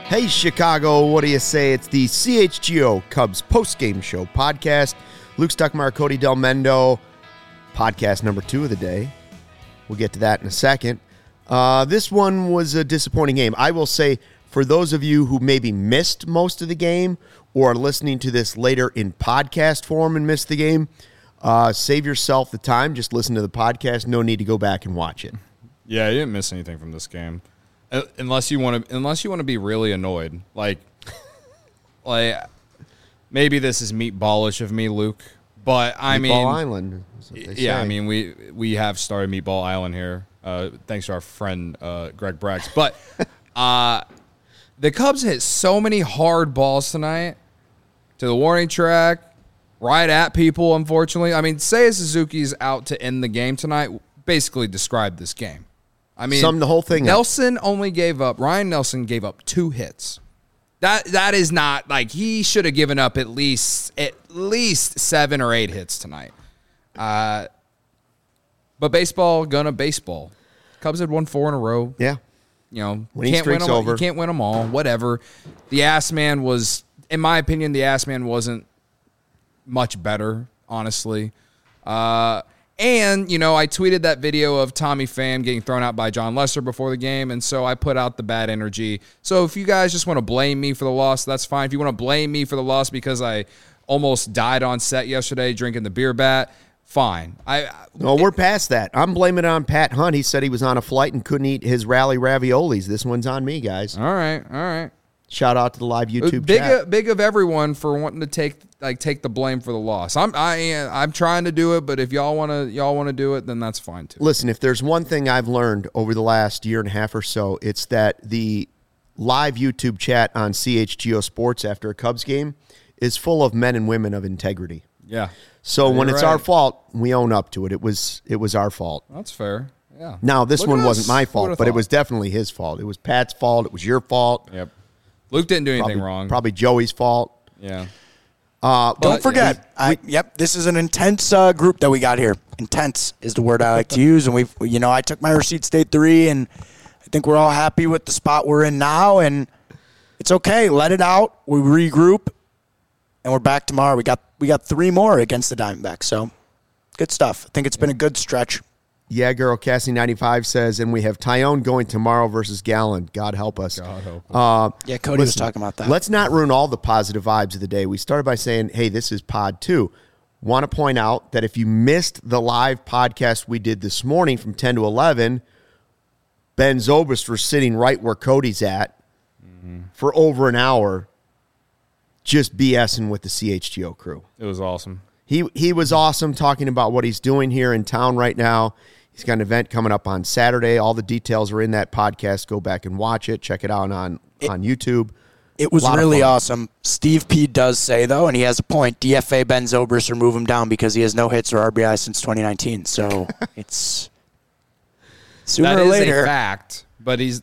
Hey, Chicago, what do you say? It's the CHGO Cubs postgame show podcast. Luke Stuckmeyer, Cody Del Mendo, podcast number 2 of the day. We'll get to that in a second. This one was a disappointing game. I will say, for those of you who maybe missed most of the game or are listening to this later in podcast form and missed the game, save yourself the time. Just listen to the podcast. No need to go back and watch it. Yeah, you didn't miss anything from this game. Unless you want to be really annoyed, like maybe this is meatballish of me, Luke. But Meatball Island. Yeah, I mean we have started Meatball Island here, thanks to our friend Greg Braggs. But the Cubs hit so many hard balls tonight to the warning track, right at people. Unfortunately, I mean, Seiya Suzuki's out to end the game tonight. Basically, described this game. I mean, summed the whole thing up. Ryan Nelson gave up 2 hits. That is not, like, he should have given up at least 7 or 8 hits tonight. But baseball gonna baseball. Cubs had won 4 in a row. Yeah. You know, winning streak's over. You can't win them all. Whatever. The Ass Man was, in my opinion, wasn't much better, honestly. And, you know, I tweeted that video of Tommy Pham getting thrown out by John Lester before the game, and so I put out the bad energy. So if you guys just want to blame me for the loss, that's fine. If you want to blame me for the loss because I almost died on set yesterday drinking the beer bat, fine. No, we're past that. I'm blaming it on Pat Hunt. He said he was on a flight and couldn't eat his rally raviolis. This one's on me, guys. All right. Shout out to the live YouTube chat. Big of everyone for wanting to take the blame for the loss. I'm trying to do it, but if y'all want to do it, then that's fine too. Listen, if there's one thing I've learned over the last year and a half or so, it's that the live YouTube chat on CHGO Sports after a Cubs game is full of men and women of integrity. Yeah. So when it's our fault, we own up to it. It was our fault. That's fair. Yeah. Now this one wasn't my fault, but it was definitely his fault. It was Pat's fault. It was your fault. Yep. Luke didn't do anything wrong. Probably Joey's fault. Yeah. Don't forget, this is an intense group that we got here. Intense is the word I like to use, and I took my receipts day 3, and I think we're all happy with the spot we're in now, and it's okay. Let it out. We regroup, and we're back tomorrow. We got 3 more against the Diamondbacks, so good stuff. I think it's been a good stretch. Yeah, girl, Cassie95 says, and we have Tyone going tomorrow versus Gallen. God help us. God help us. Yeah, Cody was talking about that. Let's not ruin all the positive vibes of the day. We started by saying, hey, this is Pod 2. Want to point out that if you missed the live podcast we did this morning from 10 to 11, Ben Zobrist was sitting right where Cody's at for over an hour just BSing with the CHGO crew. It was awesome. He was awesome talking about what he's doing here in town right now. He's got an event coming up on Saturday. All the details are in that podcast. Go back and watch it. Check it out on YouTube. It was really awesome. Steve P. does say, though, and he has a point, DFA Ben Zobrist or move him down because he has no hits or RBI since 2019. So it's sooner or later. That is a fact, but he's,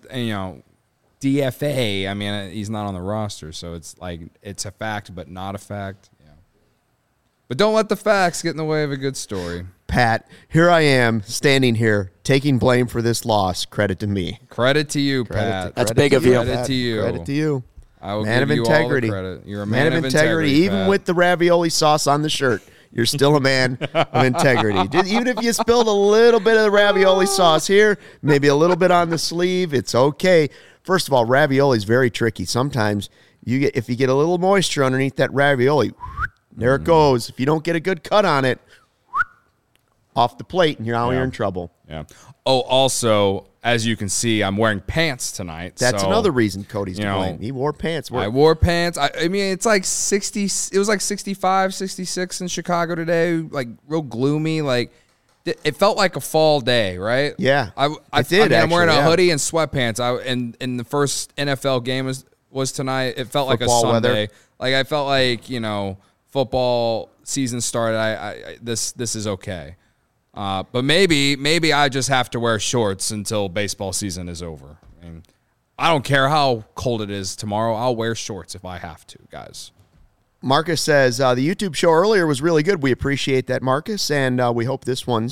DFA, I mean, he's not on the roster, so it's like it's a fact but not a fact. Yeah. But don't let the facts get in the way of a good story. Pat, here I am standing here taking blame for this loss. Credit to me. Credit to you, Pat. That's big of you. Credit to you. Credit to you. I will man give of you integrity. all the credit. You're a man of integrity. Even Pat. with the ravioli sauce on the shirt, you're still a man of integrity. Even if you spilled a little bit of the ravioli sauce here, maybe a little bit on the sleeve, it's okay. First of all, ravioli is very tricky. Sometimes if you get a little moisture underneath that ravioli, there it goes. If you don't get a good cut on it, off the plate, and you're in trouble. Yeah. Oh, also, as you can see, I'm wearing pants tonight. That's another reason Cody's to blame. He wore pants. I wore pants. I mean, it's like 60. It was like 65, 66 in Chicago today. Like real gloomy. Like it felt like a fall day, right? Yeah, I did. I'm wearing a hoodie and sweatpants. And the first NFL game was tonight. It felt like football a Sunday. Weather. Like I felt like football season started. This is okay. But maybe I just have to wear shorts until baseball season is over. I mean, I don't care how cold it is tomorrow. I'll wear shorts if I have to, guys. Marcus says, the YouTube show earlier was really good. We appreciate that, Marcus, and we hope this one's,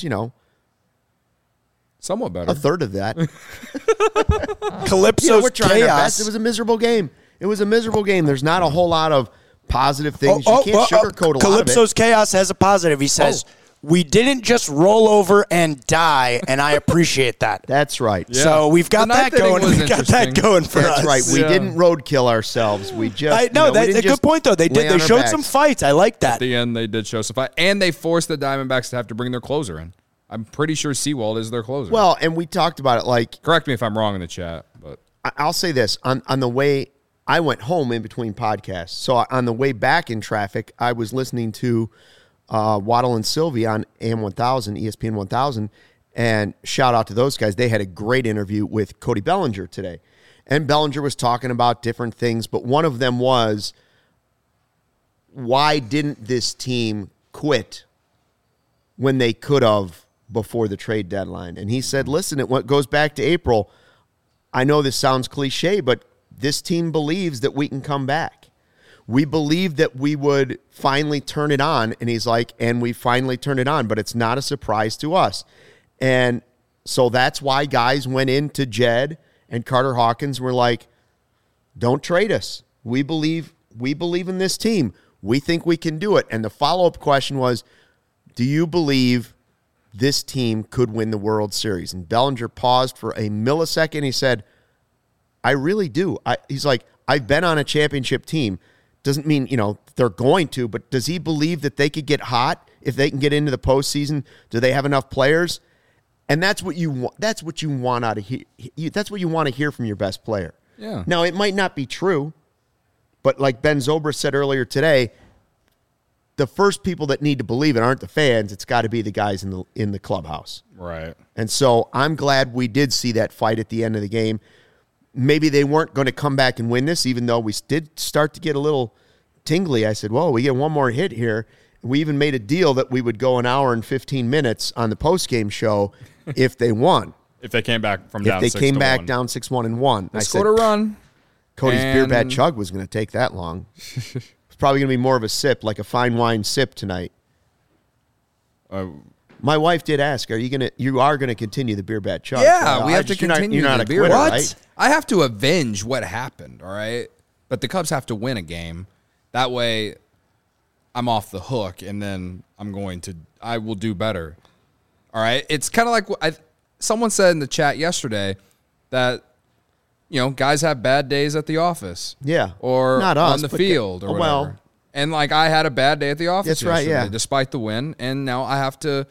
somewhat better. A third of that. Calypso's we're trying our best. chaos. It was a miserable game. It was a miserable game. There's not a whole lot of positive things. You can't sugarcoat a lot of it. Calypso's Chaos has a positive. He says, we didn't just roll over and die, and I appreciate that. That's right. Yeah. So we've got that going. We've got that going for us. That's right. We didn't roadkill ourselves. We just that's a good point though. They did. They showed some fights. I like that. At the end, they did show some fight, and they forced the Diamondbacks to have to bring their closer in. I'm pretty sure Sewald is their closer. Well, and we talked about it. Like, correct me if I'm wrong in the chat, but I'll say this on the way. I went home in between podcasts, so on the way back in traffic, I was listening to Waddle and Sylvie on AM 1000, ESPN 1000, and shout out to those guys. They had a great interview with Cody Bellinger today, and Bellinger was talking about different things, but one of them was, why didn't this team quit when they could have before the trade deadline? And he said, listen, it goes back to April. I know this sounds cliche, but this team believes that we can come back. We believe that we would finally turn it on. And he's like, and we finally turned it on, but it's not a surprise to us. And so that's why guys went into Jed and Carter Hawkins were like, don't trade us. We believe in this team. We think we can do it. And the follow-up question was, do you believe this team could win the World Series? And Bellinger paused for a millisecond. He said, I really do. He's like, I've been on a championship team. Doesn't mean, they're going to, but does he believe that they could get hot if they can get into the postseason? Do they have enough players? And that's what you want. That's what you want out of here. That's what you want to hear from your best player. Yeah. Now, it might not be true, but like Ben Zobrist said earlier today, the first people that need to believe it aren't the fans. It's got to be the guys in the clubhouse. Right. And so I'm glad we did see that fight at the end of the game. Maybe they weren't going to come back and win this, even though we did start to get a little tingly. I said, whoa, we get one more hit here. We even made a deal that we would go an hour and 15 minutes on the postgame show if they won. If they came back from down 6-1. If they came back down 6-1 and won. They scored a run. Cody's beer bat chug was going to take that long. It's probably going to be more of a sip, like a fine wine sip tonight. My wife did ask, you are going to continue the beer bat chug? Yeah, we have to continue the beer. What? Right? I have to avenge what happened, all right? But the Cubs have to win a game. That way I'm off the hook, and then I will do better. All right? It's kind of like someone said in the chat yesterday that, guys have bad days at the office. Yeah. Or not on us, the field or whatever. Well, and I had a bad day at the office yesterday, right, yeah. Despite the win, and now I have to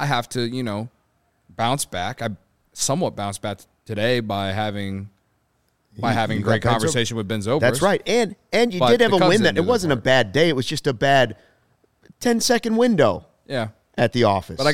bounce back. I somewhat bounced back today by having great conversation with Ben Zobrist. That's right. And you did have a win that it wasn't a bad day. It was just a bad 10-second window. Yeah. At the office. But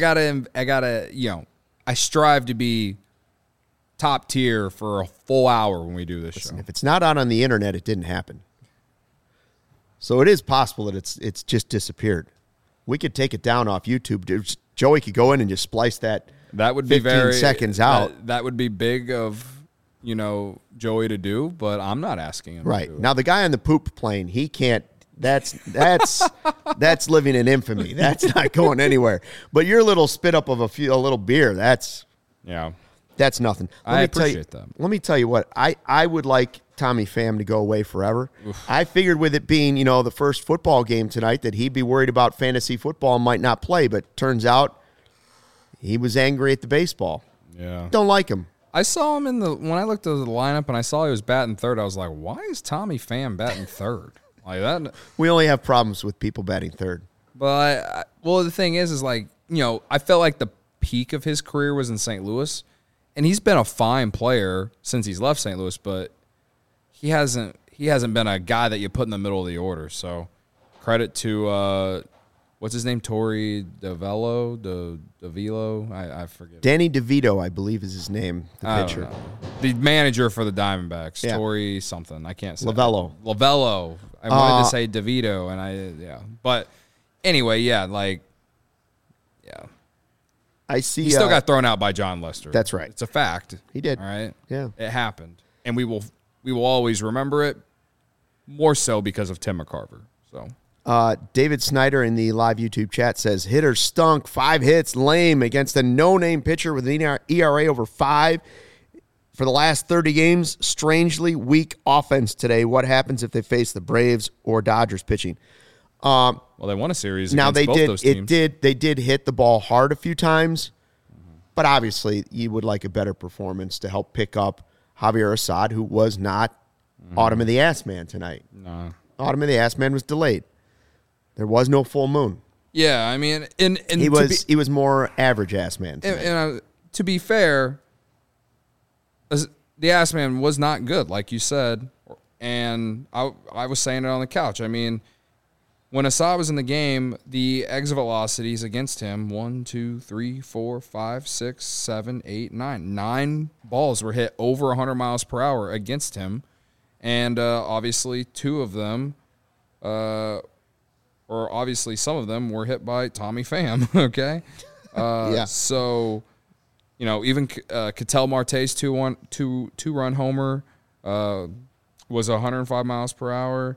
I strive to be top tier for a full hour when we do this show. If it's not out on the internet, it didn't happen. So it is possible that it's just disappeared. We could take it down off YouTube. Joey could go in and just splice that. That would be 15 seconds out. That would be big of Joey to do, but I'm not asking him. Right. To do it. Now the guy on the poop plane, he can't. That's living in infamy. That's not going anywhere. But your little spit up of a little beer, that's nothing. I appreciate that. Let me tell you what, I would like Tommy Pham to go away forever. Oof. I figured with it being, the first football game tonight that he'd be worried about fantasy football and might not play, but turns out he was angry at the baseball. Yeah. Don't like him. I saw him when I looked at the lineup and I saw he was batting third, I was like, why is Tommy Pham batting third? Like that. We only have problems with people batting third. But the thing is I felt like the peak of his career was in St. Louis, and he's been a fine player since he's left St. Louis, but he hasn't been a guy that you put in the middle of the order. So credit to what's his name, Torey DeVelo, I forget. Danny DeVito, I believe, is his name. The pitcher, the manager for the Diamondbacks, yeah. Torey something. I can't say Lavello. I wanted to say DeVito, but anyway, I see. He still got thrown out by John Lester. That's right. It's a fact. He did. All right. Yeah. It happened, and we will always remember it. More so because of Tim McCarver. So. David Snyder in the live YouTube chat says, hitter stunk, 5 hits, lame against a no-name pitcher with an ERA over 5. For the last 30 games, strangely weak offense today. What happens if they face the Braves or Dodgers pitching? Well, they won a series Now against both those teams. They did hit the ball hard a few times, but obviously you would like a better performance to help pick up Javier Assad, who was not Autumn of the Ass Man tonight. No. Autumn of the Ass Man was delayed. There was no full moon. Yeah, I mean, and He was more average Ass Man tonight. And to be fair, the Ass Man was not good, like you said, and I was saying it on the couch. I mean, when Assad was in the game, the exit velocities against him, 1, 2, 3, 4, 5, 6, 7, 8, 9. 9 balls were hit over 100 miles per hour against him. And obviously 2 of them, or obviously some of them, were hit by Tommy Pham, okay? Yeah. So, you know, even Ketel Marte's two-run homer was 105 miles per hour.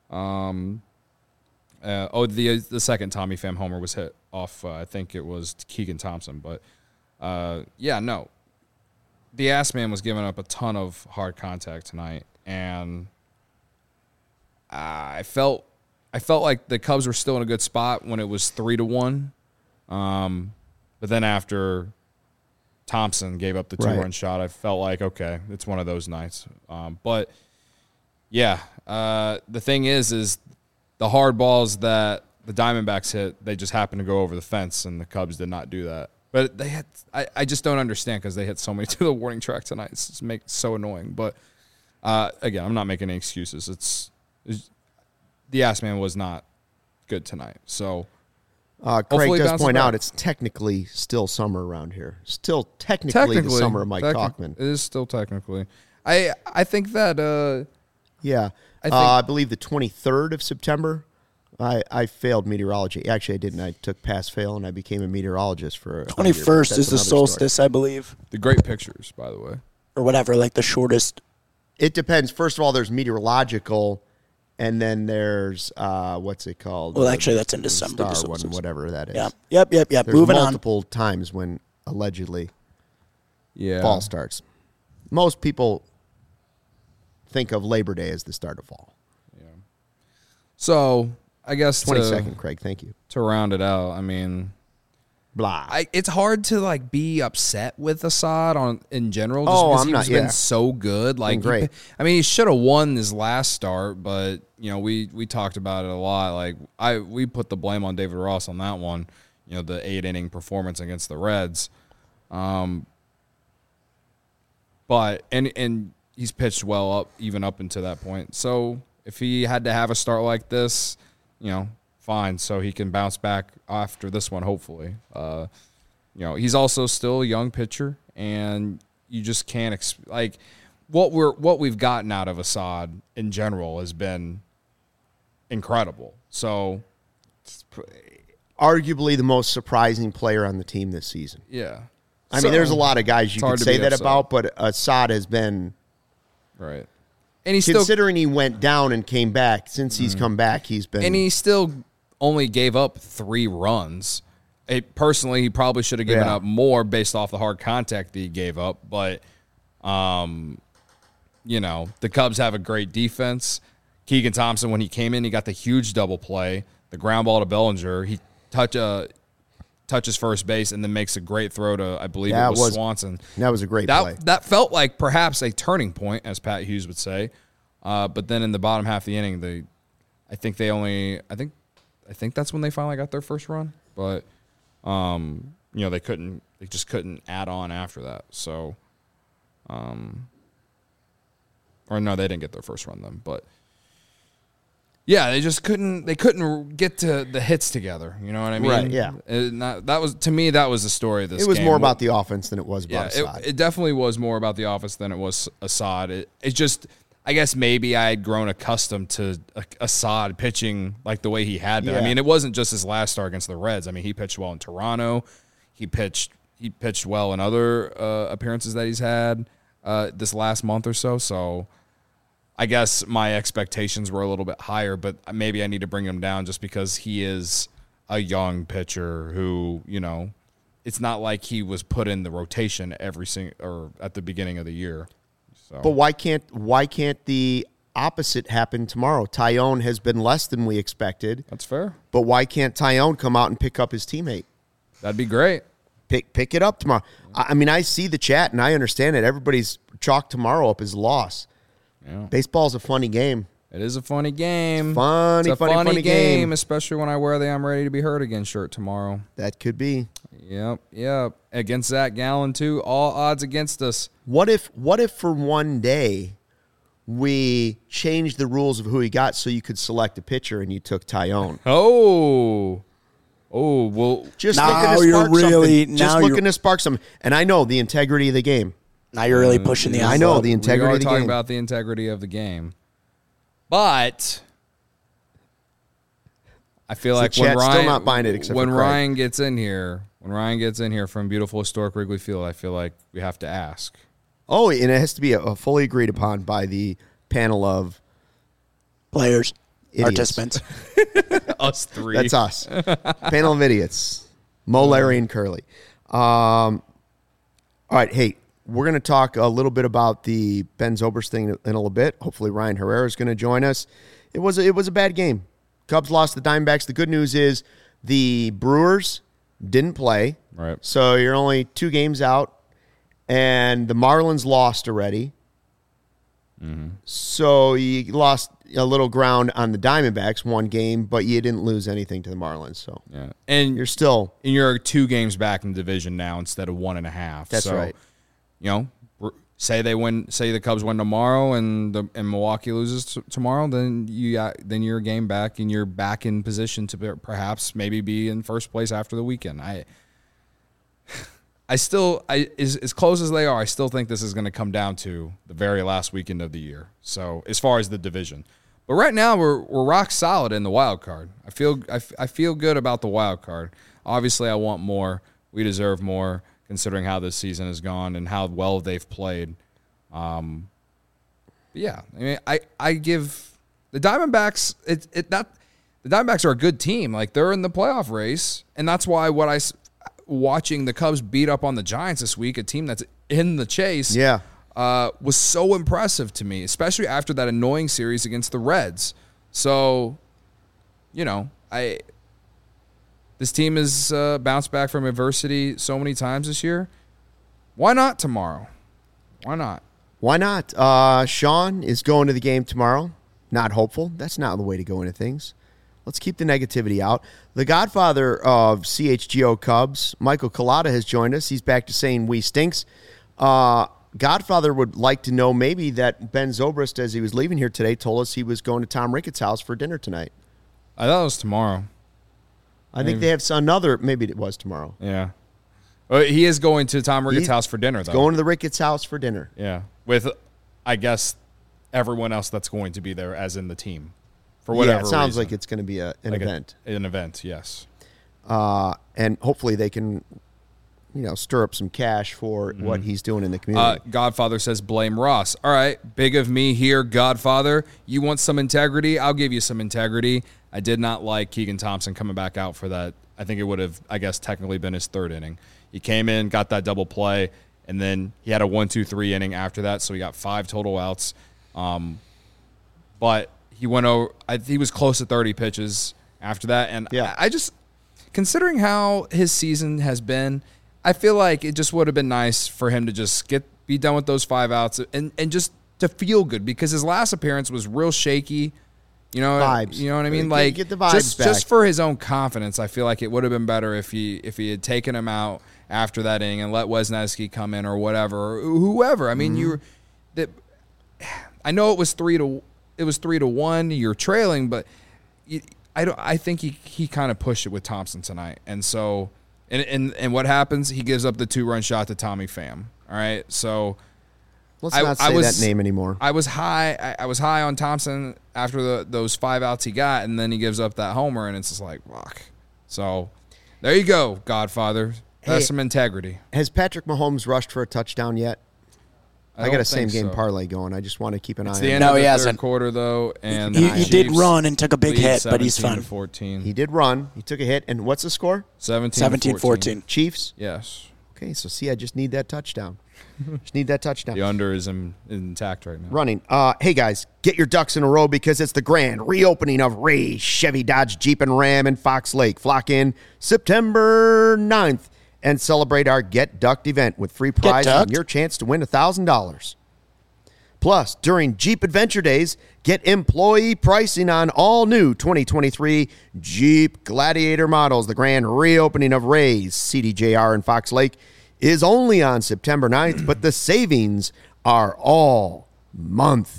The second Tommy Pham homer was hit off, I think it was Keegan Thompson. But, no. The Ass Man was giving up a ton of hard contact tonight, and I felt like the Cubs were still in a good spot when it was 3-1. But then after Thompson gave up the 2-run shot, I felt like, okay, it's one of those nights. But, yeah, the thing is the hard balls that the Diamondbacks hit, they just happened to go over the fence, and the Cubs did not do that. But they had, I just don't understand because they hit so many to the warning track tonight. It's just so annoying. But again, I'm not making any excuses. It's the Ass Man was not good tonight. So Craig does point out it's technically still summer around here. Still technically the summer of Mike Tauchman. It is still technically. I think that yeah. I believe the 23rd of September, I failed meteorology. Actually, I didn't. I took pass-fail, and I became a meteorologist for 21st is the solstice, story. I believe. The great pictures, by the way. Or whatever, like the shortest. It depends. First of all, there's meteorological, and then there's, what's it called? Well, actually, that's in December. Star one, whatever that is. Yeah. Yep. There's Moving multiple times when allegedly fall starts. Most people think of Labor Day as the start of fall. Yeah. So, I guess 22nd, Craig. Thank you. To round it out, I mean, it's hard to be upset with Assad in general. Just because he's been so good. Great. He should have won his last start, but we talked about it a lot. We put the blame on David Ross on that one. The 8-inning performance against the Reds. But he's pitched well even up into that point. So if he had to have a start like this, fine. So he can bounce back after this one, hopefully. He's also still a young pitcher, and you just can't what we've gotten out of Assad in general has been incredible. So arguably the most surprising player on the team this season. Yeah. I mean, there's a lot of guys you could say that about, but Assad has been right. And he's considering he went down and came back. Since he's come back, he's been. And he still only gave up 3 runs. Personally, he probably should have given up more based off the hard contact that he gave up. But, the Cubs have a great defense. Keegan Thompson, when he came in, he got the huge double play, the ground ball to Bellinger. He touches first base and then makes a great throw to, I believe it was Swanson. That was a great play. That felt like perhaps a turning point, as Pat Hughes would say. But then in the bottom half of the inning, I think that's when they finally got their first run. But they just couldn't add on after that. So, or no, they didn't get their first run then. But yeah, they just couldn't get to the hits together. You know what I mean? Right. Yeah. That was the story of this. It was game. more about the offense than it was about Assad. It definitely was more about the offense than it was Assad. It's just, I guess maybe I had grown accustomed to Assad pitching like the way he had been. Yeah. I mean, it wasn't just his last start against the Reds. I mean, he pitched well in Toronto. He pitched well in other appearances that he's had this last month or so. So I guess my expectations were a little bit higher, but maybe I need to bring him down just because he is a young pitcher who, it's not like he was put in the rotation or at the beginning of the year. So. But why can't the opposite happen tomorrow? Tyone has been less than we expected. That's fair. But why can't Tyone come out and pick up his teammate? That'd be great. Pick it up tomorrow. I mean, I see the chat and I understand it. Everybody's chalked tomorrow up as loss. Yeah. Baseball's a funny game. It is a funny game. It's a funny game, especially when I wear the "I'm ready to be hurt again" shirt tomorrow. That could be. Yep. Against Zach Gallen too. All odds against us. What if for one day we changed the rules of who he got so you could select a pitcher and you took Tyone? Oh, well. Just now looking to you're spark really something. Just looking to spark something. And I know the integrity of the game. Now you're really pushing the envelope. I know the integrity of the game. We are talking about the integrity of the game. But I feel like when Ryan still not buying it except when for Craig. Ryan gets in here from beautiful historic Wrigley Field, I feel like we have to ask. Oh, and it has to be a fully agreed upon by the panel of players, idiots. participants. Us three. That's us. Panel of idiots. Mo, Larry, and Curly. All right, hey, we're going to talk a little bit about the Ben Zobrist thing in a little bit. Hopefully Ryan Herrera is going to join us. It was a bad game. Cubs lost the Diamondbacks. The good news is the Brewers didn't play. Right. So you're only 2 games out, and the Marlins lost already. Mm-hmm. So you lost a little ground on the Diamondbacks, 1 game, but you didn't lose anything to the Marlins. So yeah, and you're 2 games back in the division now instead of 1.5. That's right. You know, say the Cubs win tomorrow and Milwaukee loses tomorrow, then you're a game back and you're back in position to perhaps maybe be in first place after the weekend. As close as they are, I still think this is going to come down to the very last weekend of the year. So as far as the division, but right now we're rock solid in the wild card. I feel good about the wild card. Obviously, I want more. We deserve more, considering how this season has gone and how well they've played. But yeah, I mean, I give the Diamondbacks the Diamondbacks are a good team. Like, they're in the playoff race, and that's why watching the Cubs beat up on the Giants this week, a team that's in the chase, was so impressive to me, especially after that annoying series against the Reds. So, you know, this team has bounced back from adversity so many times this year. Why not tomorrow? Why not? Sean is going to the game tomorrow. Not hopeful. That's not the way to go into things. Let's keep the negativity out. The godfather of CHGO Cubs, Michael Collada, has joined us. He's back to saying we stinks. Godfather would like to know maybe that Ben Zobrist, as he was leaving here today, told us he was going to Tom Ricketts' house for dinner tonight. I thought it was tomorrow. I think they have another. Maybe it was tomorrow. Yeah. He is going to Tom Ricketts' house for dinner, though. Going to the Ricketts' house for dinner. Yeah. With, I guess, everyone else that's going to be there, as in the team. For whatever reason. It sounds like it's going to be an event. An event, yes. And hopefully they can, stir up some cash for what he's doing in the community. Godfather says, blame Ross. All right, big of me here, Godfather. You want some integrity? I'll give you some integrity. I did not like Keegan Thompson coming back out for that. I think it would have, technically been his 3rd inning. He came in, got that double play, and then he had a 1-2-3 inning after that, so he got 5 total outs. But he went over. He was close to 30 pitches after that, and I just, considering how his season has been, I feel like it just would have been nice for him to just be done with those 5 outs and just to feel good, because his last appearance was real shaky. Vibes. You know what I mean? Get the vibes back. Just for his own confidence, I feel like it would have been better if he had taken him out after that inning and let Wesneski come in or whatever, or whoever. I mean, I know it was 3-1. You're trailing, but I think he kind of pushed it with Thompson tonight, and so and what happens? He gives up the 2-run shot to Tommy Pham. All right, so. Let's not say that name anymore. I was high on Thompson after those 5 outs he got, and then he gives up that homer, and it's just like, fuck. So there you go, Godfather. That's some integrity. Has Patrick Mahomes rushed for a touchdown yet? I got a same-game parlay going. I just want to keep an eye on it. It's the end of the third quarter, though, and he did run and took a big hit, but he's fine. 14. He did run. He took a hit. And what's the score? 17-14. Chiefs? Yes. Okay, so see, I just need that touchdown. The under is intact right now. Running. Hey, guys, get your ducks in a row because it's the grand reopening of Ray's Chevy, Dodge, Jeep, and Ram in Fox Lake. Flock in September 9th and celebrate our Get Ducked event with free prizes and your chance to win $1,000. Plus, during Jeep Adventure Days, get employee pricing on all new 2023 Jeep Gladiator models. The grand reopening of Ray's CDJR in Fox Lake is only on September 9th, but the savings are all month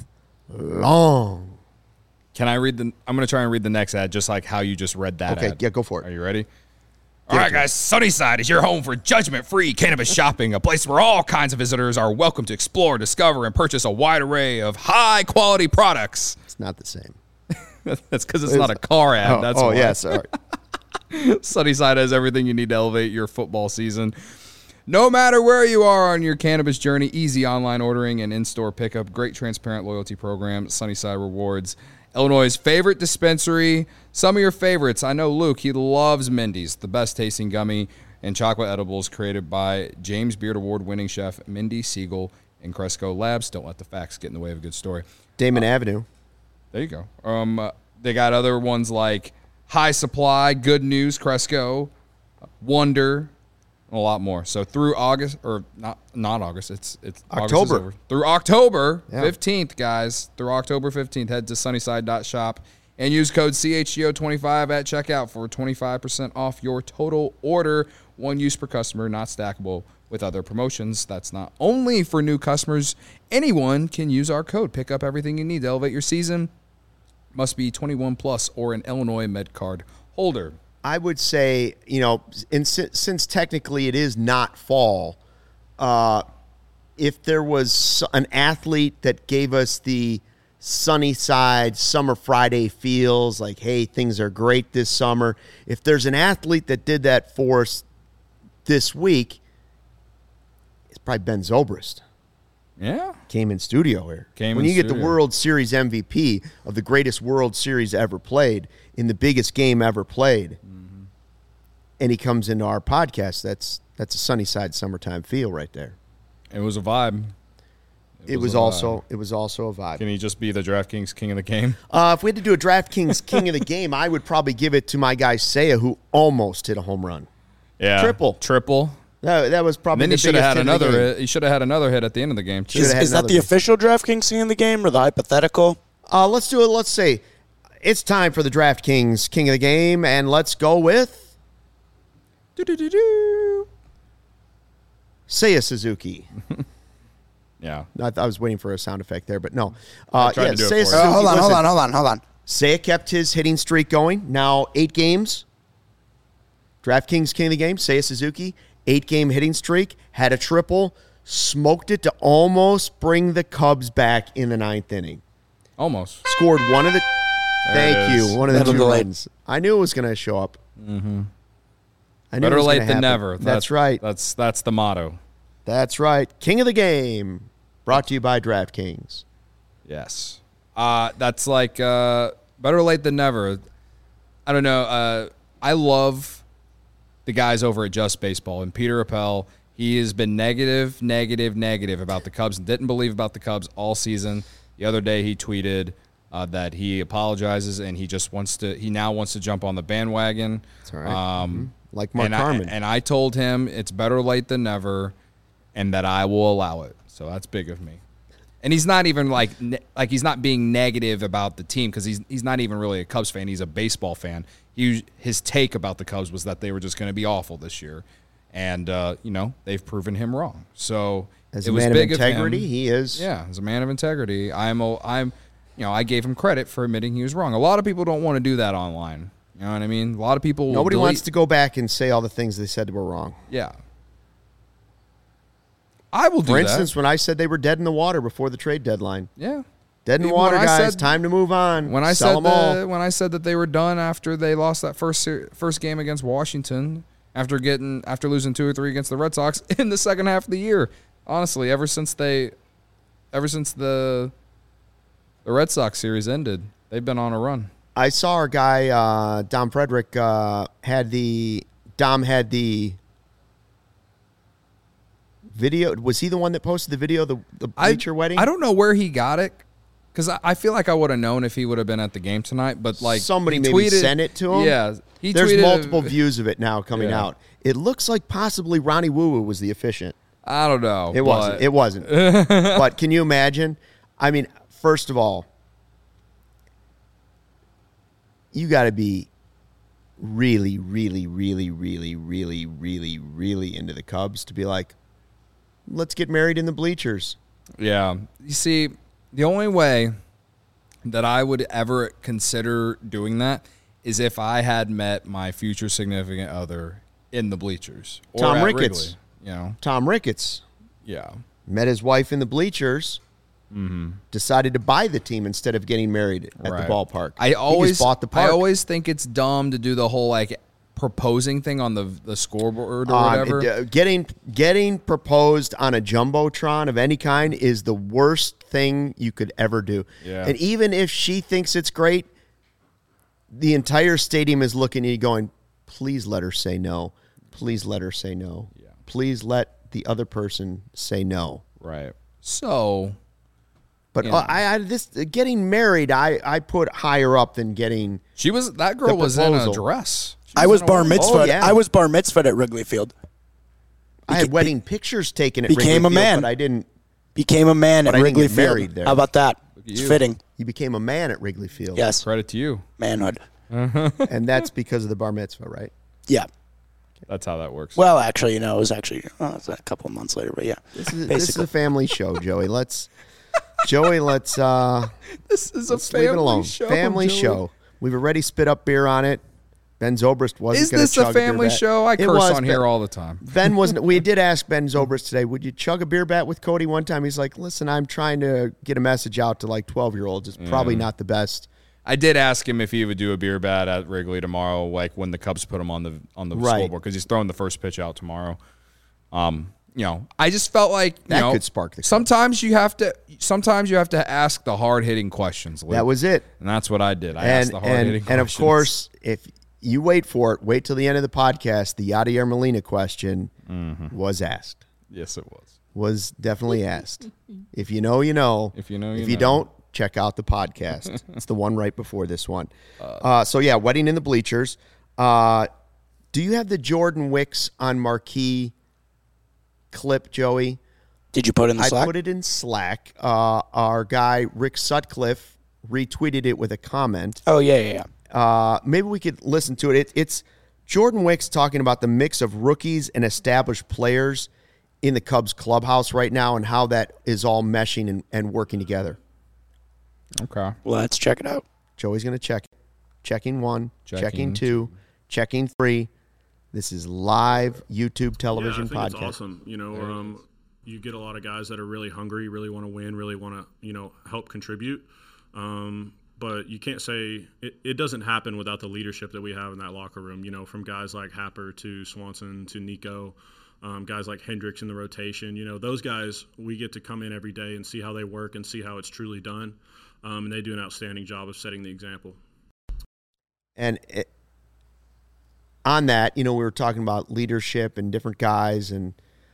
long. Can I read I'm going to try and read the next ad just like how you just read that ad. Okay, yeah, go for it. Are you ready? All right, guys, Sunnyside is your home for judgment-free cannabis shopping, a place where all kinds of visitors are welcome to explore, discover, and purchase a wide array of high-quality products. It's not the same. That's because it's not a car ad. That's why. Yeah, sorry. Sunnyside has everything you need to elevate your football season. No matter where you are on your cannabis journey, easy online ordering and in-store pickup, great transparent loyalty program, Sunnyside Rewards, Illinois' favorite dispensary. Some of your favorites. I know Luke, he loves Mindy's, the best tasting gummy and chocolate edibles created by James Beard Award-winning chef Mindy Siegel and Cresco Labs. Don't let the facts get in the way of a good story. Damon Avenue. There you go. They got other ones like High Supply, Good News, Cresco, Wonder, and a lot more. So through August, or not August, it's October. Through October 15th, guys. Through October 15th, head to sunnyside.shop and use code CHGO25 at checkout for 25% off your total order. One use per customer, not stackable with other promotions. That's not only for new customers. Anyone can use our code. Pick up everything you need to elevate your season. Must be 21 plus or an Illinois MedCard holder. I would say, since technically it is not fall, if there was an athlete that gave us the Sunnyside Summer Friday feels like, hey, things are great this summer. If there's an athlete that did that for us this week, it's probably Ben Zobrist. Yeah. Came in studio here. When you get the World Series MVP of the greatest World Series ever played in the biggest game ever played, and he comes into our podcast, that's a Sunnyside summertime feel right there. It was a vibe. It was also a vibe. Can he just be the DraftKings king of the game? If we had to do a DraftKings king of the game, I would probably give it to my guy Saya, who almost hit a home run. Yeah, triple. That was probably. And then he should have had another hit. He should have had another hit at the end of the game too. Is that the official DraftKings king of the game or the hypothetical? Let's do it. Let's say it's time for the DraftKings king of the game, and let's go with Saya Suzuki. Yeah. I was waiting for a sound effect there, but no. I tried to do it for you. Hold on. Saya kept his hitting streak going. Now 8 games. DraftKings king of the game, Saya Suzuki, 8-game hitting streak, had a triple, smoked it to almost bring the Cubs back in the 9th inning. Almost. Scored one of the... Thank you. One of the 2 runs. I knew it was going to show up. Mm-hmm. Better late than never. That's right. That's the motto. That's right. King of the game. Brought to you by DraftKings. Yes. That's like better late than never. I don't know. I love the guys over at Just Baseball. And Peter Appel, he has been negative about the Cubs and didn't believe about the Cubs all season. The other day he tweeted that he apologizes and he now wants to jump on the bandwagon. That's all right. Like Mark Carman. And I told him it's better late than never and that I will allow it. So that's big of me. And he's not even like he's not being negative about the team because he's not even really a Cubs fan. He's a baseball fan. His take about the Cubs was that they were just going to be awful this year. And, they've proven him wrong. So as a man of integrity, he is. Yeah, as a man of integrity, I gave him credit for admitting he was wrong. A lot of people don't want to do that online. You know what I mean? A lot of people Nobody wants to go back and say all the things they said were wrong. Yeah. I will do that. For instance, when I said they were dead in the water before the trade deadline. Yeah. Dead in the water, guys. Time to move on. When I said that they were done after they lost that first game against Washington, after losing 2 or 3 against the Red Sox in the second half of the year. Honestly, ever since they ever since the Red Sox series ended. They've been on a run. I saw our guy Dom Frederick had the video. Was he the one that posted the video, the bleacher wedding? I don't know where he got it, because I feel like I would have known if he would have been at the game tonight. But like somebody maybe sent it to him. Yeah, there's multiple views of it now coming out. It looks like possibly Ronnie Woo was the officiant. I don't know. It wasn't. It wasn't. But can you imagine? I mean, first of all, you got to be really, really, really, really, really, really, really into the Cubs to be like, let's get married in the bleachers. Yeah. You see, the only way that I would ever consider doing that is if I had met my future significant other in the bleachers. Or Tom at Ricketts. Wrigley, Tom Ricketts. Yeah. Met his wife in the bleachers. Mm-hmm. Decided to buy the team instead of getting married at the ballpark. He just bought the park. I always think it's dumb to do the whole like proposing thing on the scoreboard or whatever. Getting proposed on a jumbotron of any kind is the worst thing you could ever do. Yeah. And even if she thinks it's great, the entire stadium is looking at you going, please let her say no. Please let her say no. Yeah. Please let the other person say no. Right. So, but getting married, I put higher up than getting. That girl was in a dress. I was bar mitzvahed. Oh, yeah. I was bar mitzvahed at Wrigley Field. I had wedding pictures taken at became Wrigley a man. Field, but I didn't. Became a man at Wrigley get married Field. there. How about that? It's fitting. You became a man at Wrigley Field. Yes. Credit to you. Manhood. And that's because of the bar mitzvah, right? Yeah. That's how that works. Well, actually, it was actually a couple of months later, but yeah. This is a family show, Joey. Let's this is a leave it alone. family show. Family Joey. show. We've already spit up beer on it. Ben Zobrist wasn't Is going to this chug a family beer bat. show? I It curse was, on here all the time. Ben wasn't. We did ask Ben Zobrist today, would you chug a beer bat with Cody one time? He's like, listen, I'm trying to get a message out to like 12-year-olds. It's probably not the best. I did ask him if he would do a beer bat at Wrigley tomorrow, like when the Cubs put him on the Right. scoreboard, because he's throwing the first pitch out tomorrow. I just felt like That could spark the Cubs. Sometimes you have to ask the hard hitting questions. Luke. That was it. And that's what I did. I asked the hard hitting questions. And of course, if you wait for it, wait till the end of the podcast, the Yadier Molina question was asked. Yes, it was. Was definitely asked. If you know, you know. If you know, if you you know. don't, check out the podcast. It's the one right before this one. So yeah, wedding in the bleachers. Do you have the Jordan Wicks on Marquee clip, Joey? Did you put it in the Slack? I put it in Slack. Our guy Rick Sutcliffe retweeted it with a comment. Oh yeah. Maybe we could listen to it. It's Jordan Wicks talking about the mix of rookies and established players in the Cubs clubhouse right now and how that is all meshing and working together. Okay. Let's check it out. Joey's going to check it. Checking 1, checking 2, checking 3. This is live YouTube television I think podcast. It's awesome. You get a lot of guys that are really hungry, really want to win, really want to, help contribute. But you can't say it doesn't happen without the leadership that we have in that locker room, from guys like Happer to Swanson to Nico, guys like Hendricks in the rotation. Those guys, we get to come in every day and see how they work and see how it's truly done. And they do an outstanding job of setting the example. And on that, we were talking about leadership and different guys, and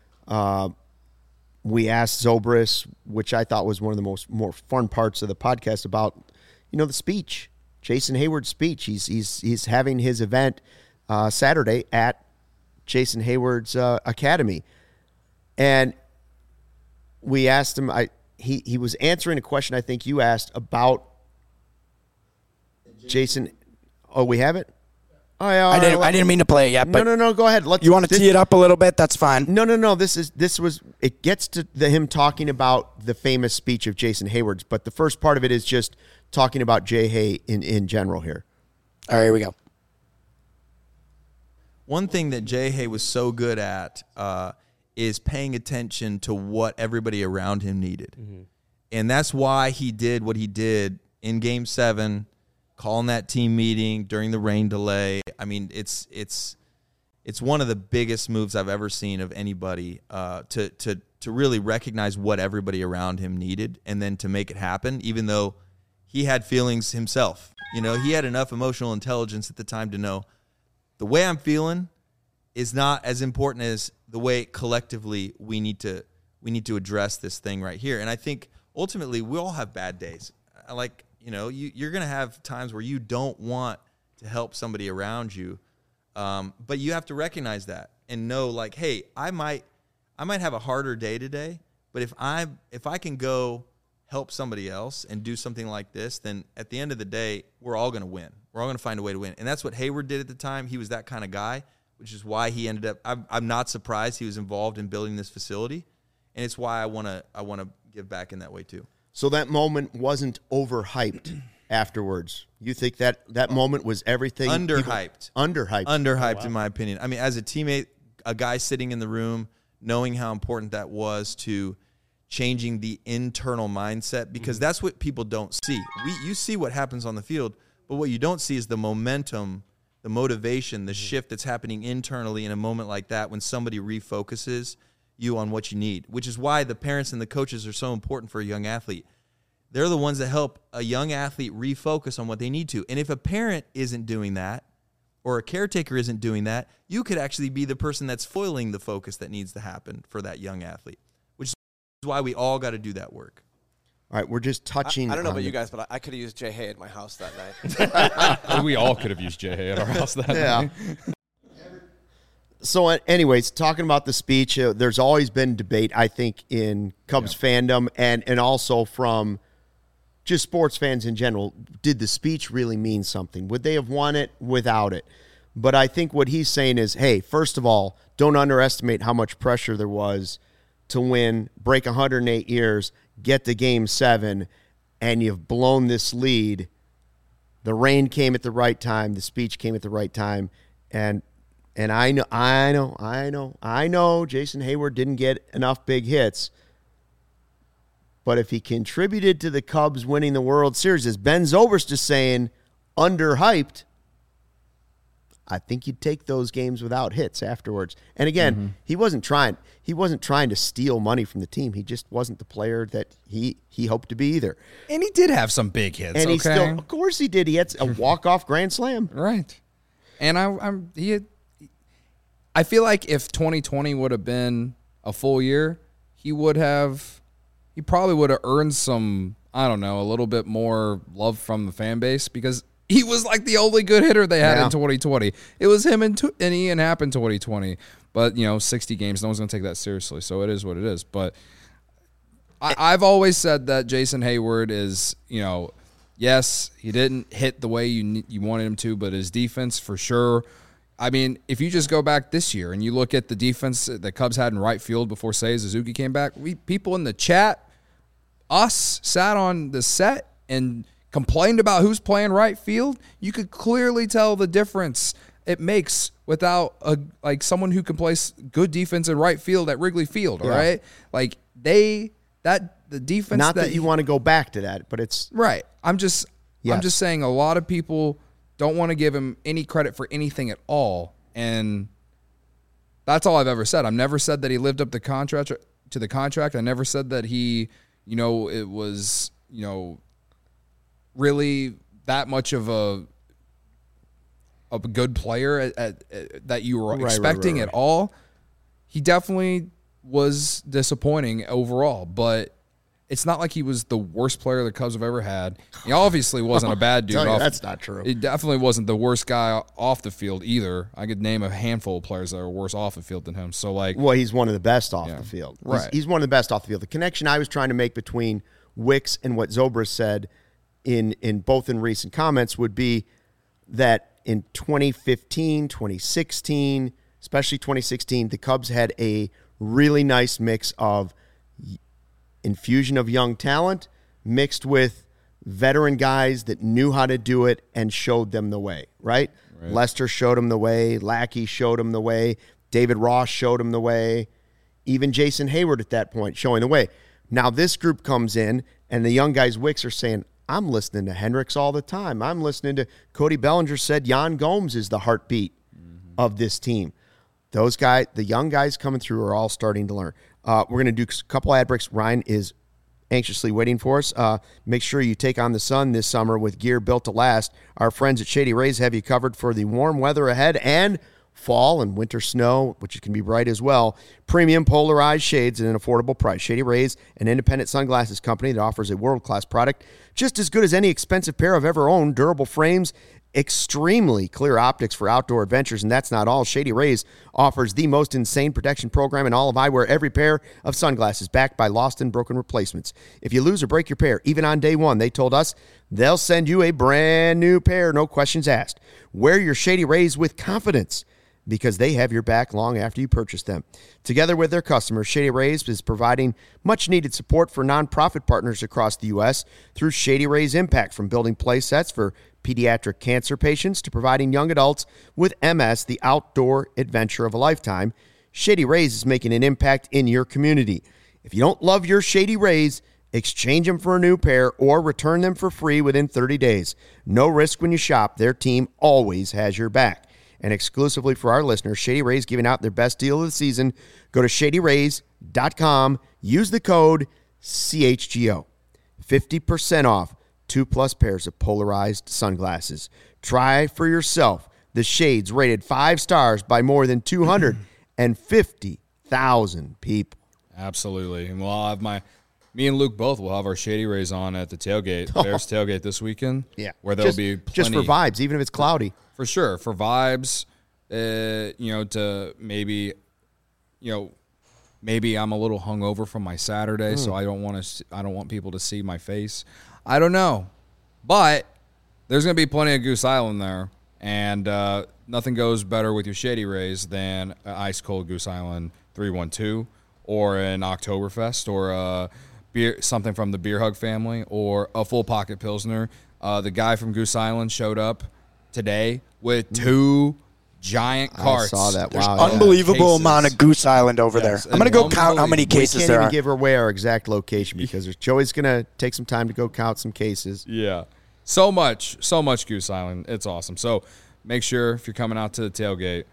we asked Zobrist, which I thought was one of the more fun parts of the podcast, about the speech, Jason Hayward's speech. He's having his event Saturday at Jason Hayward's academy, and we asked him. He was answering a question I think you asked about Jason. Oh, we have it? Oh, yeah. I didn't mean to play it yet. But No. Go ahead. You want to tee it up a little bit? That's fine. No. It gets to him talking about the famous speech of Jason Hayward's, but the first part of it is just talking about Jay Hay in general here. All right, here we go. One thing that Jay Hay was so good at is paying attention to what everybody around him needed. Mm-hmm. And that's why he did what he did in Game 7, calling that team meeting during the rain delay. I mean, it's it's one of the biggest moves I've ever seen of anybody to really recognize what everybody around him needed and then to make it happen, even though he had feelings himself. You know, he had enough emotional intelligence at the time to know the way I'm feeling is not as important as the way collectively we need to address this thing right here. And I think ultimately we all have bad days. Like, you know, you're going to have times where you don't want to help somebody around you. But you have to recognize that and know, like, hey, I might have a harder day today, but if I can go help somebody else and do something like this, then at the end of the day, we're all going to win. We're all going to find a way to win. And that's what Hayward did at the time. He was that kind of guy, which is why he ended up, I'm not surprised he was involved in building this facility. And it's why I want to give back in that way too. So that moment wasn't overhyped afterwards. You think that moment was everything? Underhyped. Underhyped, in my opinion. I mean, as a teammate, a guy sitting in the room, knowing how important that was to changing the internal mindset, because that's what people don't see. You see what happens on the field, but what you don't see is the momentum, the motivation, the shift that's happening internally in a moment like that when somebody refocuses you on what you need, which is why the parents and the coaches are so important for a young athlete. They're the ones that help a young athlete refocus on what they need to. And if a parent isn't doing that or a caretaker isn't doing that, you could actually be the person that's foiling the focus that needs to happen for that young athlete, which is why we all got to do that work. All right, we're just touching. I don't know about you guys, but I could have used Jay Hay at my house that night. We all could have used Jay Hay at our house that night. So anyways, talking about the speech, there's always been debate, I think, in Cubs fandom and also from just sports fans in general. Did the speech really mean something? Would they have won it without it? But I think what he's saying is, hey, first of all, don't underestimate how much pressure there was to win, break 108 years, get to Game 7, and you've blown this lead. The rain came at the right time. The speech came at the right time. And I know Jason Hayward didn't get enough big hits. But if he contributed to the Cubs winning the World Series, as Ben Zobrist is saying, underhyped, I think you'd take those games without hits afterwards. And again, he wasn't trying to steal money from the team. He just wasn't the player that he hoped to be either. And he did have some big hits. And he still, of course he did. He had a walk-off grand slam. Right. And I feel like if 2020 would have been a full year, he probably would have earned some, I don't know, a little bit more love from the fan base because he was like the only good hitter they had in 2020. It was him and Ian Happ in 2020. But, 60 games, no one's going to take that seriously. So it is what it is. But I've always said that Jason Hayward is, yes, he didn't hit the way you wanted him to, but his defense for sure. I mean, if you just go back this year and you look at the defense the Cubs had in right field before Seiya Suzuki came back, people in the chat, us sat on the set and complained about who's playing right field. You could clearly tell the difference it makes without someone who can play good defense in right field at Wrigley Field. All right, like the defense. Not that you want to go back to that, but it's right. I'm just saying a lot of people don't want to give him any credit for anything at all, and that's all I've ever said. I've never said that he lived up to the contract. I never said that he, it was, really that much of a good player that you were expecting at all. He definitely was disappointing overall, but it's not like he was the worst player the Cubs have ever had. He obviously wasn't a bad dude. That's not true. He definitely wasn't the worst guy off the field either. I could name a handful of players that are worse off the field than him. So well, he's one of the best off the field. Right. He's one of the best off the field. The connection I was trying to make between Wicks and what Zobrist said in both in recent comments would be that in 2015, 2016, especially 2016, the Cubs had a really nice mix of infusion of young talent mixed with veteran guys that knew how to do it and showed them the way, right? Lester showed them the way. Lackey showed them the way. David Ross showed them the way. Even Jason Hayward at that point showing the way. Now this group comes in and the young guys, Wicks, are saying, I'm listening to Hendricks all the time. I'm listening to Cody Bellinger said Yan Gomes is the heartbeat of this team. Those guys, the young guys coming through, are all starting to learn. We're going to do a couple ad breaks. Ryan is anxiously waiting for us. Make sure you take on the sun this summer with gear built to last. Our friends at Shady Rays have you covered for the warm weather ahead and fall and winter snow, which can be bright as well. Premium polarized shades at an affordable price. Shady Rays, an independent sunglasses company that offers a world-class product just as good as any expensive pair I've ever owned. Durable frames, extremely clear optics for outdoor adventures, and that's not all. Shady Rays offers the most insane protection program in all of eyewear. Every pair of sunglasses backed by lost and broken replacements. If you lose or break your pair, even on day one, they told us they'll send you a brand new pair, no questions asked. Wear your Shady Rays with confidence, because they have your back long after you purchase them. Together with their customers, Shady Rays is providing much-needed support for nonprofit partners across the U.S. through Shady Rays Impact, from building play sets for pediatric cancer patients to providing young adults with MS the outdoor adventure of a lifetime. Shady Rays is making an impact in your community. If you don't love your Shady Rays, exchange them for a new pair or return them for free within 30 days. No risk when you shop. Their team always has your back. And exclusively for our listeners, Shady Rays giving out their best deal of the season. Go to shadyrays.com. Use the code CHGO. 50% off 2+ pairs of polarized sunglasses. Try for yourself the shades rated 5 stars by more than 250,000 people. Absolutely. And we'll have me and Luke both will have our Shady Rays on at the tailgate, Bears tailgate this weekend. Yeah. Where there'll be plenty. Just for vibes, even if it's cloudy. For sure, for vibes, to maybe, maybe I'm a little hungover from my Saturday, so I don't want people to see my face. I don't know, but there's gonna be plenty of Goose Island there, and nothing goes better with your Shady Rays than an ice cold Goose Island 312 or an Oktoberfest or something from the Beer Hug family or a full pocket Pilsner. The guy from Goose Island showed up today with 2 giant carts. I saw that. There's Wow. unbelievable amount of Goose Island over there. I'm going to go count how many We cases can't there even are. give away our exact location because Joey's going to take some time to go count some cases. Yeah. So much Goose Island. It's awesome. So make sure if you're coming out to the tailgate,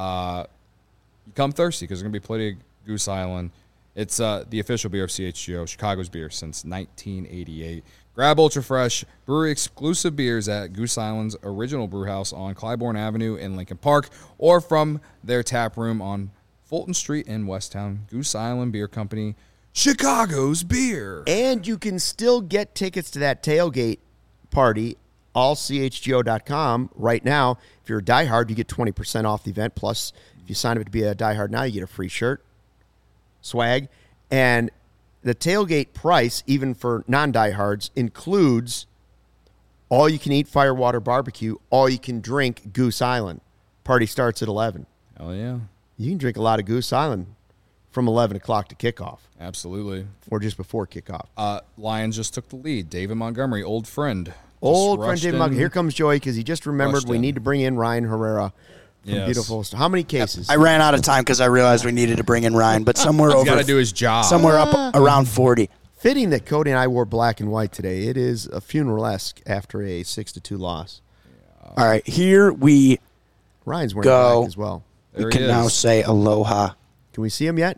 you come thirsty because there's going to be plenty of Goose Island. It's the official beer of CHGO, Chicago's beer since 1988. Grab Ultra Fresh brewery exclusive beers at Goose Island's original brew house on Clybourne Avenue in Lincoln Park or from their tap room on Fulton Street in Westtown. Goose Island Beer Company, Chicago's beer. And you can still get tickets to that tailgate party, allchgo.com right now. If you're a diehard, you get 20% off the event. Plus, if you sign up to be a diehard now, you get a free shirt, swag, and the tailgate price, even for non-diehards, includes all-you-can-eat firewater barbecue, all-you-can-drink Goose Island. Party starts at 11. Hell yeah. You can drink a lot of Goose Island from 11 o'clock to kickoff. Absolutely. Or just before kickoff. Lions just took the lead. David Montgomery, old friend. Old friend David Montgomery. Here comes Joey because he just remembered we in. need to bring in Ryan Herrera. Yes. Beautiful. How many cases? I ran out of time because I realized we needed to bring in Ryan, but somewhere He's over. got to do his job. Somewhere up around 40. Fitting that Cody and I wore black and white today. It is a funeral-esque after a 6-2 loss. All right, here we Ryan's wearing go. black as well. There we he can now is. say aloha. Can we see him yet?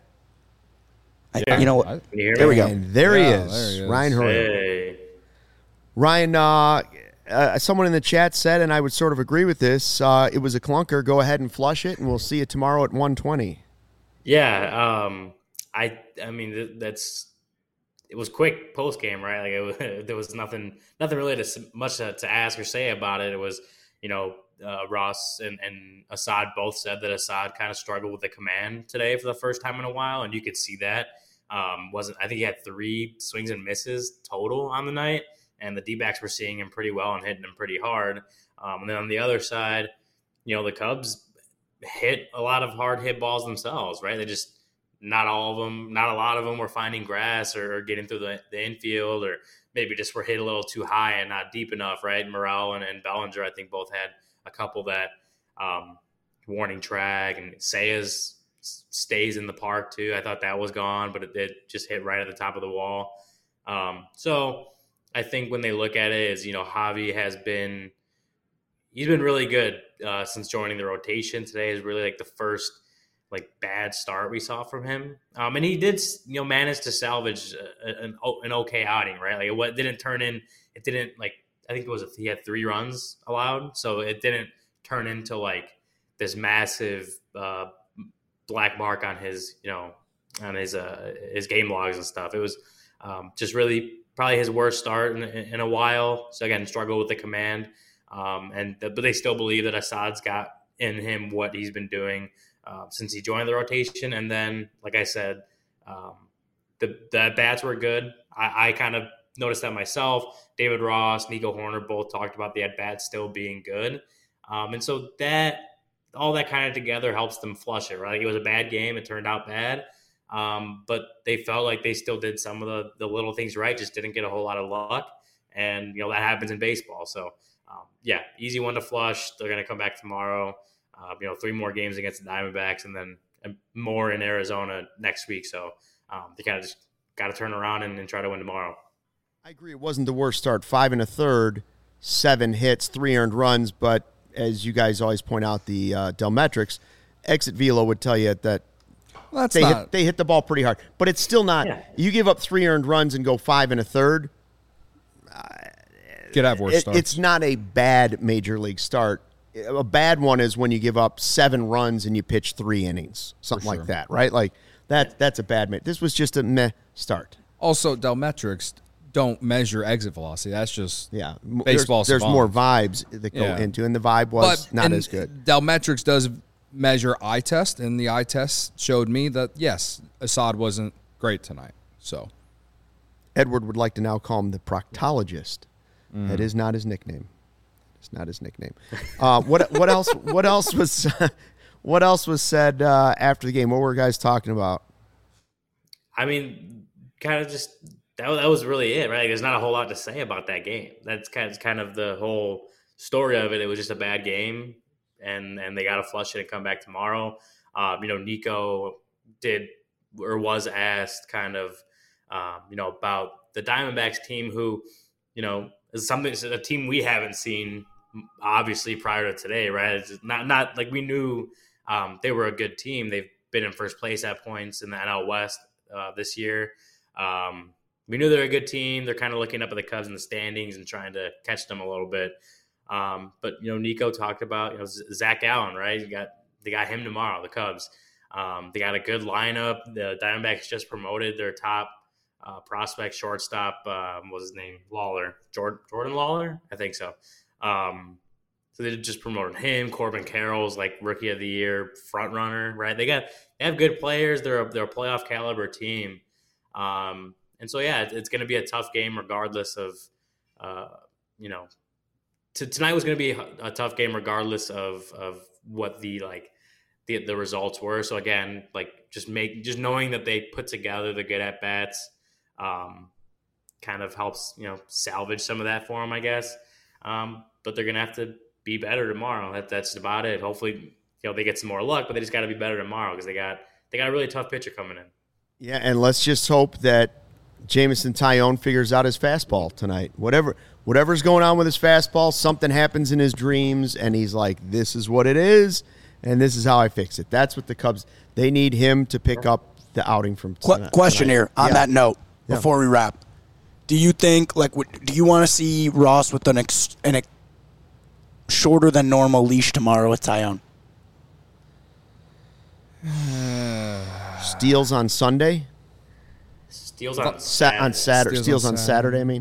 You know what? I- Can you hear me? There we go. And there he Yeah, is. there he is. Ryan Herrera. Hey. Ryan, someone in the chat said, and I would sort of agree with this, it was a clunker. Go ahead and flush it, and we'll see you tomorrow at 1:20. Yeah, I mean it was quick post game, right? Like there was nothing really much to ask or say about it. It was, Ross and Assad both said that Assad kind of struggled with the command today for the first time in a while, and you could see that. I think he had 3 swings and misses total on the night, and the D-backs were seeing him pretty well and hitting him pretty hard. And then on the other side, the Cubs hit a lot of hard hit balls themselves, right? They just, not all of them, not a lot of them were finding grass or getting through the infield, or maybe just were hit a little too high and not deep enough, right? Morel and Bellinger, I think, both had a couple that warning track, and Sayas stays in the park too. I thought that was gone, but it just hit right at the top of the wall. So I think when they look at it is, Javi he's been really good since joining the rotation. Today is really like the first like bad start we saw from him. And he did, manage to salvage an okay outing, right? Like it didn't turn in. It didn't like. I think he had 3 runs allowed, so it didn't turn into like this massive black mark on his his game logs and stuff. It was just really probably his worst start in a while. So again, struggled with the command, but they still believe that Assad's got in him what he's been doing since he joined the rotation. And then, like I said, the bats were good. I kind of noticed that myself. David Ross, Nico Horner both talked about the at-bats still being good. And so all that kind of together helps them flush it, right? Like it was a bad game. It turned out bad. But they felt like they still did some of the little things right, just didn't get a whole lot of luck. And, that happens in baseball. So, easy one to flush. They're going to come back tomorrow. 3 more games against the Diamondbacks and then more in Arizona next week. So they kind of just got to turn around and try to win tomorrow. I agree. It wasn't the worst start. 5 1/3, 7 hits, 3 earned runs. But as you guys always point out, the Delmetrics, Exit Velo would tell you that they hit the ball pretty hard. But it's still not. Yeah. You give up 3 earned runs and go 5 1/3. Could have worse starts. It's not a bad major league start. A bad one is when you give up 7 runs and you pitch 3 innings, something like that, right? Like that's a bad. This was just a meh start. Also, Delmetrics don't measure exit velocity. That's just baseball. There's more vibes that go into, and the vibe was not as good. Delmetrics does measure eye test, and the eye test showed me that yes, Assad wasn't great tonight. So Edward would like to now call him the proctologist. That is not his nickname. It's not his nickname. What else? What else was said after the game? What were guys talking about? I mean, kind of just that was really it, right? Like, there's not a whole lot to say about that game. That's kind of the whole story of it. It was just a bad game, and they got to flush it and come back tomorrow. Nico was asked kind of, about the Diamondbacks team, who, is a team we haven't seen obviously prior to today, right? It's not like we knew they were a good team. They've been in first place at points in the NL West this year. We knew they're a good team. They're kind of looking up at the Cubs in the standings and trying to catch them a little bit. But Nico talked about Zach Allen, right? They got him tomorrow, the Cubs. They got a good lineup. The Diamondbacks just promoted their top prospect shortstop. What was his name? Lawler, Jordan Lawler, I think so. So they just promoted him. Corbin Carroll's like rookie of the year front runner, right? They have good players. They're a playoff caliber team. And so it's going to be a tough game regardless of tonight was going to be a tough game regardless of what the results were. So again, just knowing that they put together the good at bats kind of helps salvage some of that for them, I guess. But they're going to have to be better tomorrow. That's about it. Hopefully, they get some more luck, but they just got to be better tomorrow because they got a really tough pitcher coming in. Yeah, and let's just hope that Jameson Taillon figures out his fastball tonight. Whatever's going on with his fastball, something happens in his dreams, and he's like, this is what it is, and this is how I fix it. That's what the Cubs, they need him to pick up the outing from tonight. Question here on that note before we wrap. Do you think, do you want to see Ross with an shorter than normal leash tomorrow with Taillon? Steals on Sunday? Steals on Saturday. Steals on Saturday, I mean.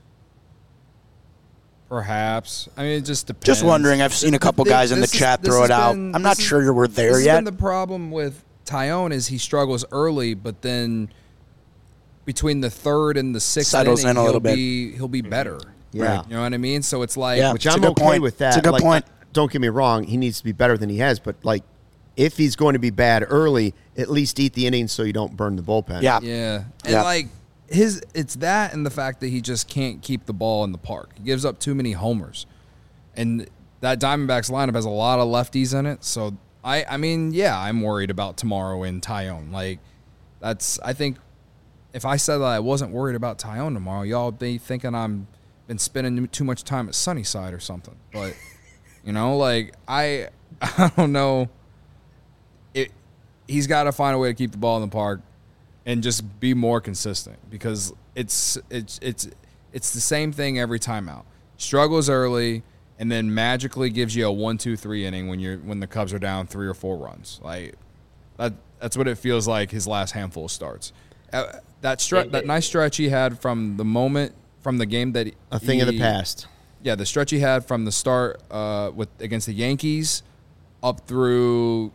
Perhaps. I mean, it just depends. Just wondering. I've seen a couple guys in the chat throw it out. I'm not sure we're there yet. The problem with Taillon is he struggles early, but then between the third and the sixth inning, he'll be better. Yeah. You know what I mean? So it's like, which I'm okay with that. It's a good point. Don't get me wrong. He needs to be better than he has, but if he's going to be bad early, at least eat the innings so you don't burn the bullpen. Yeah. Yeah. And it's that and the fact that he just can't keep the ball in the park. He gives up too many homers. And that Diamondbacks lineup has a lot of lefties in it. So I'm worried about tomorrow in Taillon. I think if I said that I wasn't worried about Taillon tomorrow, y'all be thinking I'm been spending too much time at Sunnyside or something. But I don't know. he's got to find a way to keep the ball in the park and just be more consistent, because it's the same thing every time out. Struggles early and then magically gives you a 1-2-3 inning when the Cubs are down 3 or 4 runs. Like that's what it feels like his last handful of starts. That nice stretch he had from the game that a thing of the past. Yeah, the stretch he had from the start against the Yankees up through,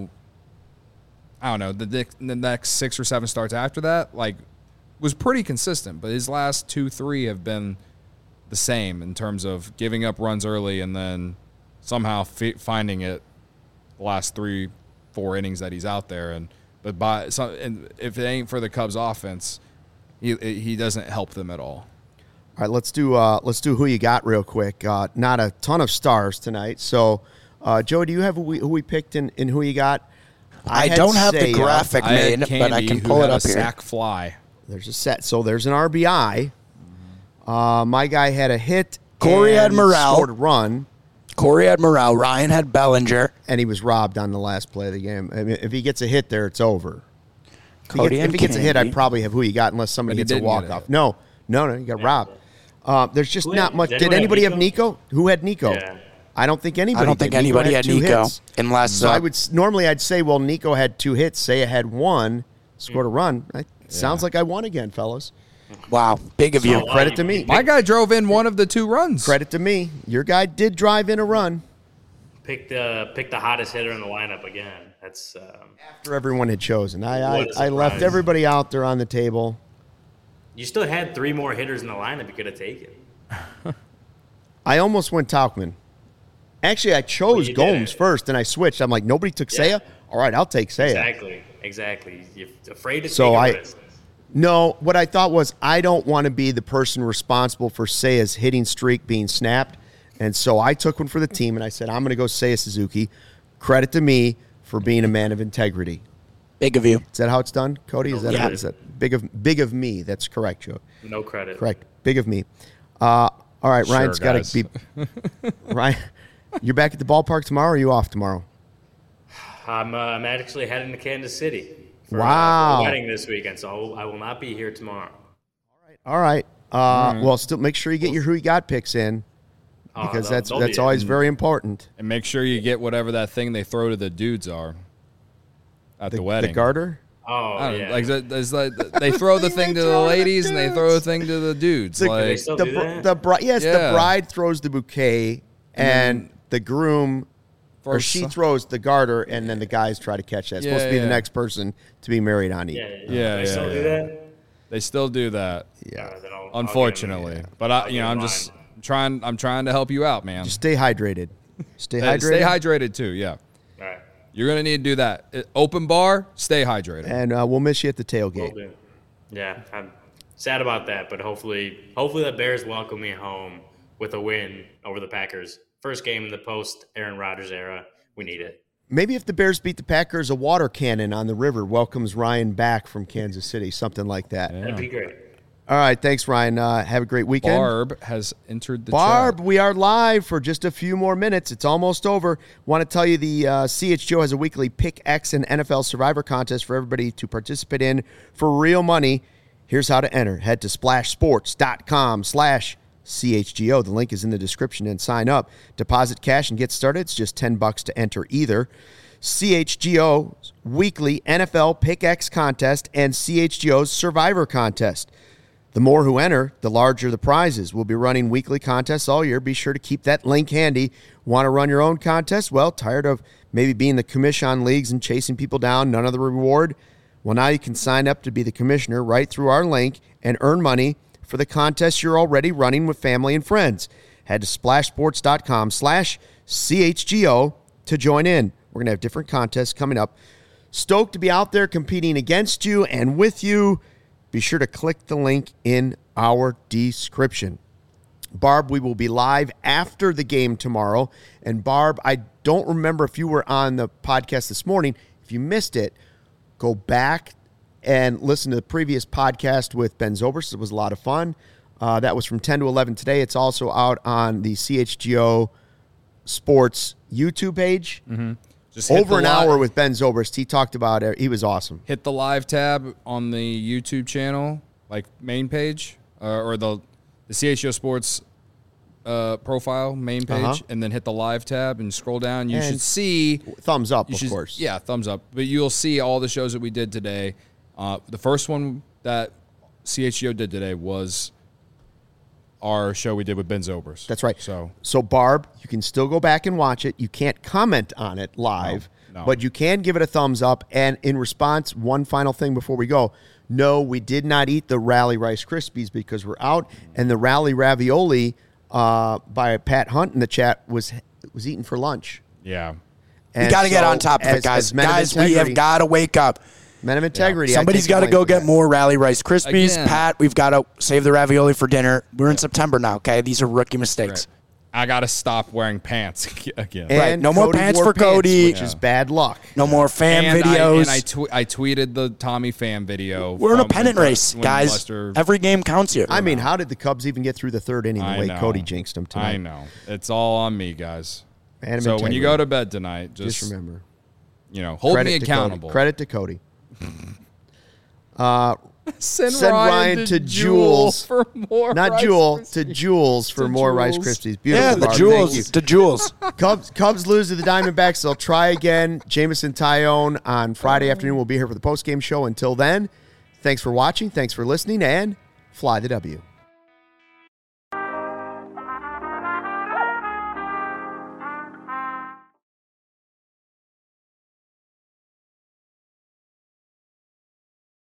I don't know, the next 6 or 7 starts after that, like, was pretty consistent. But his last 2-3 have been the same in terms of giving up runs early and then somehow finding it the last 3-4 innings that he's out there. And if it ain't for the Cubs offense, he doesn't help them at all. All right, let's do who you got real quick. Not a ton of stars tonight. So, Joe, do you have who we picked in who you got? I don't have the graphic made, but I can pull it up here. Sack fly. There's a set. So there's an RBI. My guy had a hit. Corey had Morrell. Scored a run. Corey had Morrell. Ryan had Bellinger. And he was robbed on the last play of the game. I mean, if he gets a hit there, it's over. If he gets a hit, I'd probably have who you got unless somebody gets a walk-off. No, you got robbed. There's just not much. Did anybody have Nico? Who had Nico? Yeah. I don't think anybody. I don't think anybody had Nico. Unless so I'd say, well, Nico had 2 hits. Seiya had 1, scored a run. Sounds like I won again, fellas. Wow, big of you. Credit to me. My guy drove in one of the 2 runs. Credit to me. Your guy did drive in a run. Pick the hottest hitter in the lineup again. That's after everyone had chosen. I left everybody out there on the table. You still had 3 more hitters in the lineup you could have taken. I almost went Tauchman. Actually, I chose Gomes first, and I switched. I'm like, nobody took Seiya? All right, I'll take Seiya. Exactly. You're afraid to take a risk. No, what I thought was I don't want to be the person responsible for Seiya's hitting streak being snapped. And so I took one for the team, and I said, I'm going to go Seiya Suzuki. Credit to me for being a man of integrity. Big of you. Is that how it's done, Cody? Is that big of me? That's correct, Joe. No credit. Correct. Big of me. All right, Sure, Ryan's got to be Ryan. You're back at the ballpark tomorrow, or are you off tomorrow? I'm actually heading to Kansas City for wow. a wedding this weekend, so I will not be here tomorrow. All right. Well, still make sure you get your who you got picks in, because that's always very important. And make sure you get whatever that thing they throw to the dudes are at the wedding. The garter? Oh, yeah. Like they throw the thing to the ladies and they throw the thing to the dudes. The bride throws the bouquet and the groom or she throws the garter, and then the guys try to catch that. It's supposed to be the next person to be married on you. They still do that? They still do that. Yeah. Unfortunately. But I'm just trying to help you out, man. Just stay hydrated. Stay hydrated. Stay hydrated too, yeah. All right. You're going to need to do that. Open bar, stay hydrated. And we'll miss you at the tailgate. Yeah, I'm sad about that, but hopefully the Bears welcome me home with a win over the Packers. First game in the post-Aaron Rodgers era. We need it. Maybe if the Bears beat the Packers, a water cannon on the river welcomes Ryan back from Kansas City, something like that. Yeah. That'd be great. All right, thanks, Ryan. Have a great weekend. Barb has entered the chat. We are live for just a few more minutes. It's almost over. Want to tell you the CHGO has a weekly Pick X and NFL Survivor contest for everybody to participate in for real money. Here's how to enter. Head to splashsports.com/CHGO. The link is in the description, and sign up. Deposit cash and get started. It's just $10 to enter either. CHGO's weekly NFL Pick X contest and CHGO's Survivor contest. The more who enter, the larger the prizes. We'll be running weekly contests all year. Be sure to keep that link handy. Want to run your own contest? Well, tired of maybe being the commission on leagues and chasing people down, none of the reward? Well, now you can sign up to be the commissioner right through our link and earn money for the contest you're already running with family and friends. Head to splashsports.com/CHGO to join in. We're going to have different contests coming up. Stoked to be out there competing against you and with you. Be sure to click the link in our description. Barb, we will be live after the game tomorrow. And Barb, I don't remember if you were on the podcast this morning. If you missed it, go back and listen to the previous podcast with Ben Zobrist. It was a lot of fun. That was from 10 to 11 today. It's also out on the CHGO Sports YouTube page. Mm-hmm. Just hit over the an li- hour with Ben Zobrist. He talked about it. He was awesome. Hit the live tab on the YouTube channel, like main page, or the CHGO Sports profile main page, and then hit the live tab and scroll down. You should see thumbs up, of course. Yeah, thumbs up. But you'll see all the shows that we did today. The first one that CHGO did today was our show we did with Ben Zobrist. That's right. So Barb, you can still go back and watch it. You can't comment on it live, No. but you can give it a thumbs up. And in response, one final thing before we go. No, we did not eat the Rally Rice Krispies because we're out, and the Rally Ravioli by Pat Hunt in the chat was eaten for lunch. yeah. And We got to get so on top of it, guys. as men of Guys, we have integrity- got to wake up. Men of integrity. Somebody's got to go get more Rally Rice Krispies. Again. Pat, we've got to save the ravioli for dinner. We're in September now, okay? These are rookie mistakes. I got to stop wearing pants again. And Right, no more Cody pants wore for Cody. which is bad luck. No more fan And videos. I tweeted the Tommy fan video. We're in a from pennant when- race, when guys. Lester- Every game counts here. I mean, how did the Cubs even get through the third inning the I way know. Cody jinxed them tonight? I know. It's all on me, guys. Man of So when you integrity. go to bed tonight, just just remember. hold Credit me to accountable. Cody. Credit to Cody. Send Ryan to Jules. for more. Not Rice Jewel, Krispies. to Jules for To more Rice Jules. Krispies. Beautiful. yeah, the Barb. Jewels. Thank you. The Jewels. Cubs lose to the Diamondbacks. They'll try again. Jameson Tyone on Friday afternoon. We'll be here for the postgame show. Until then, thanks for watching. Thanks for listening, and fly the W.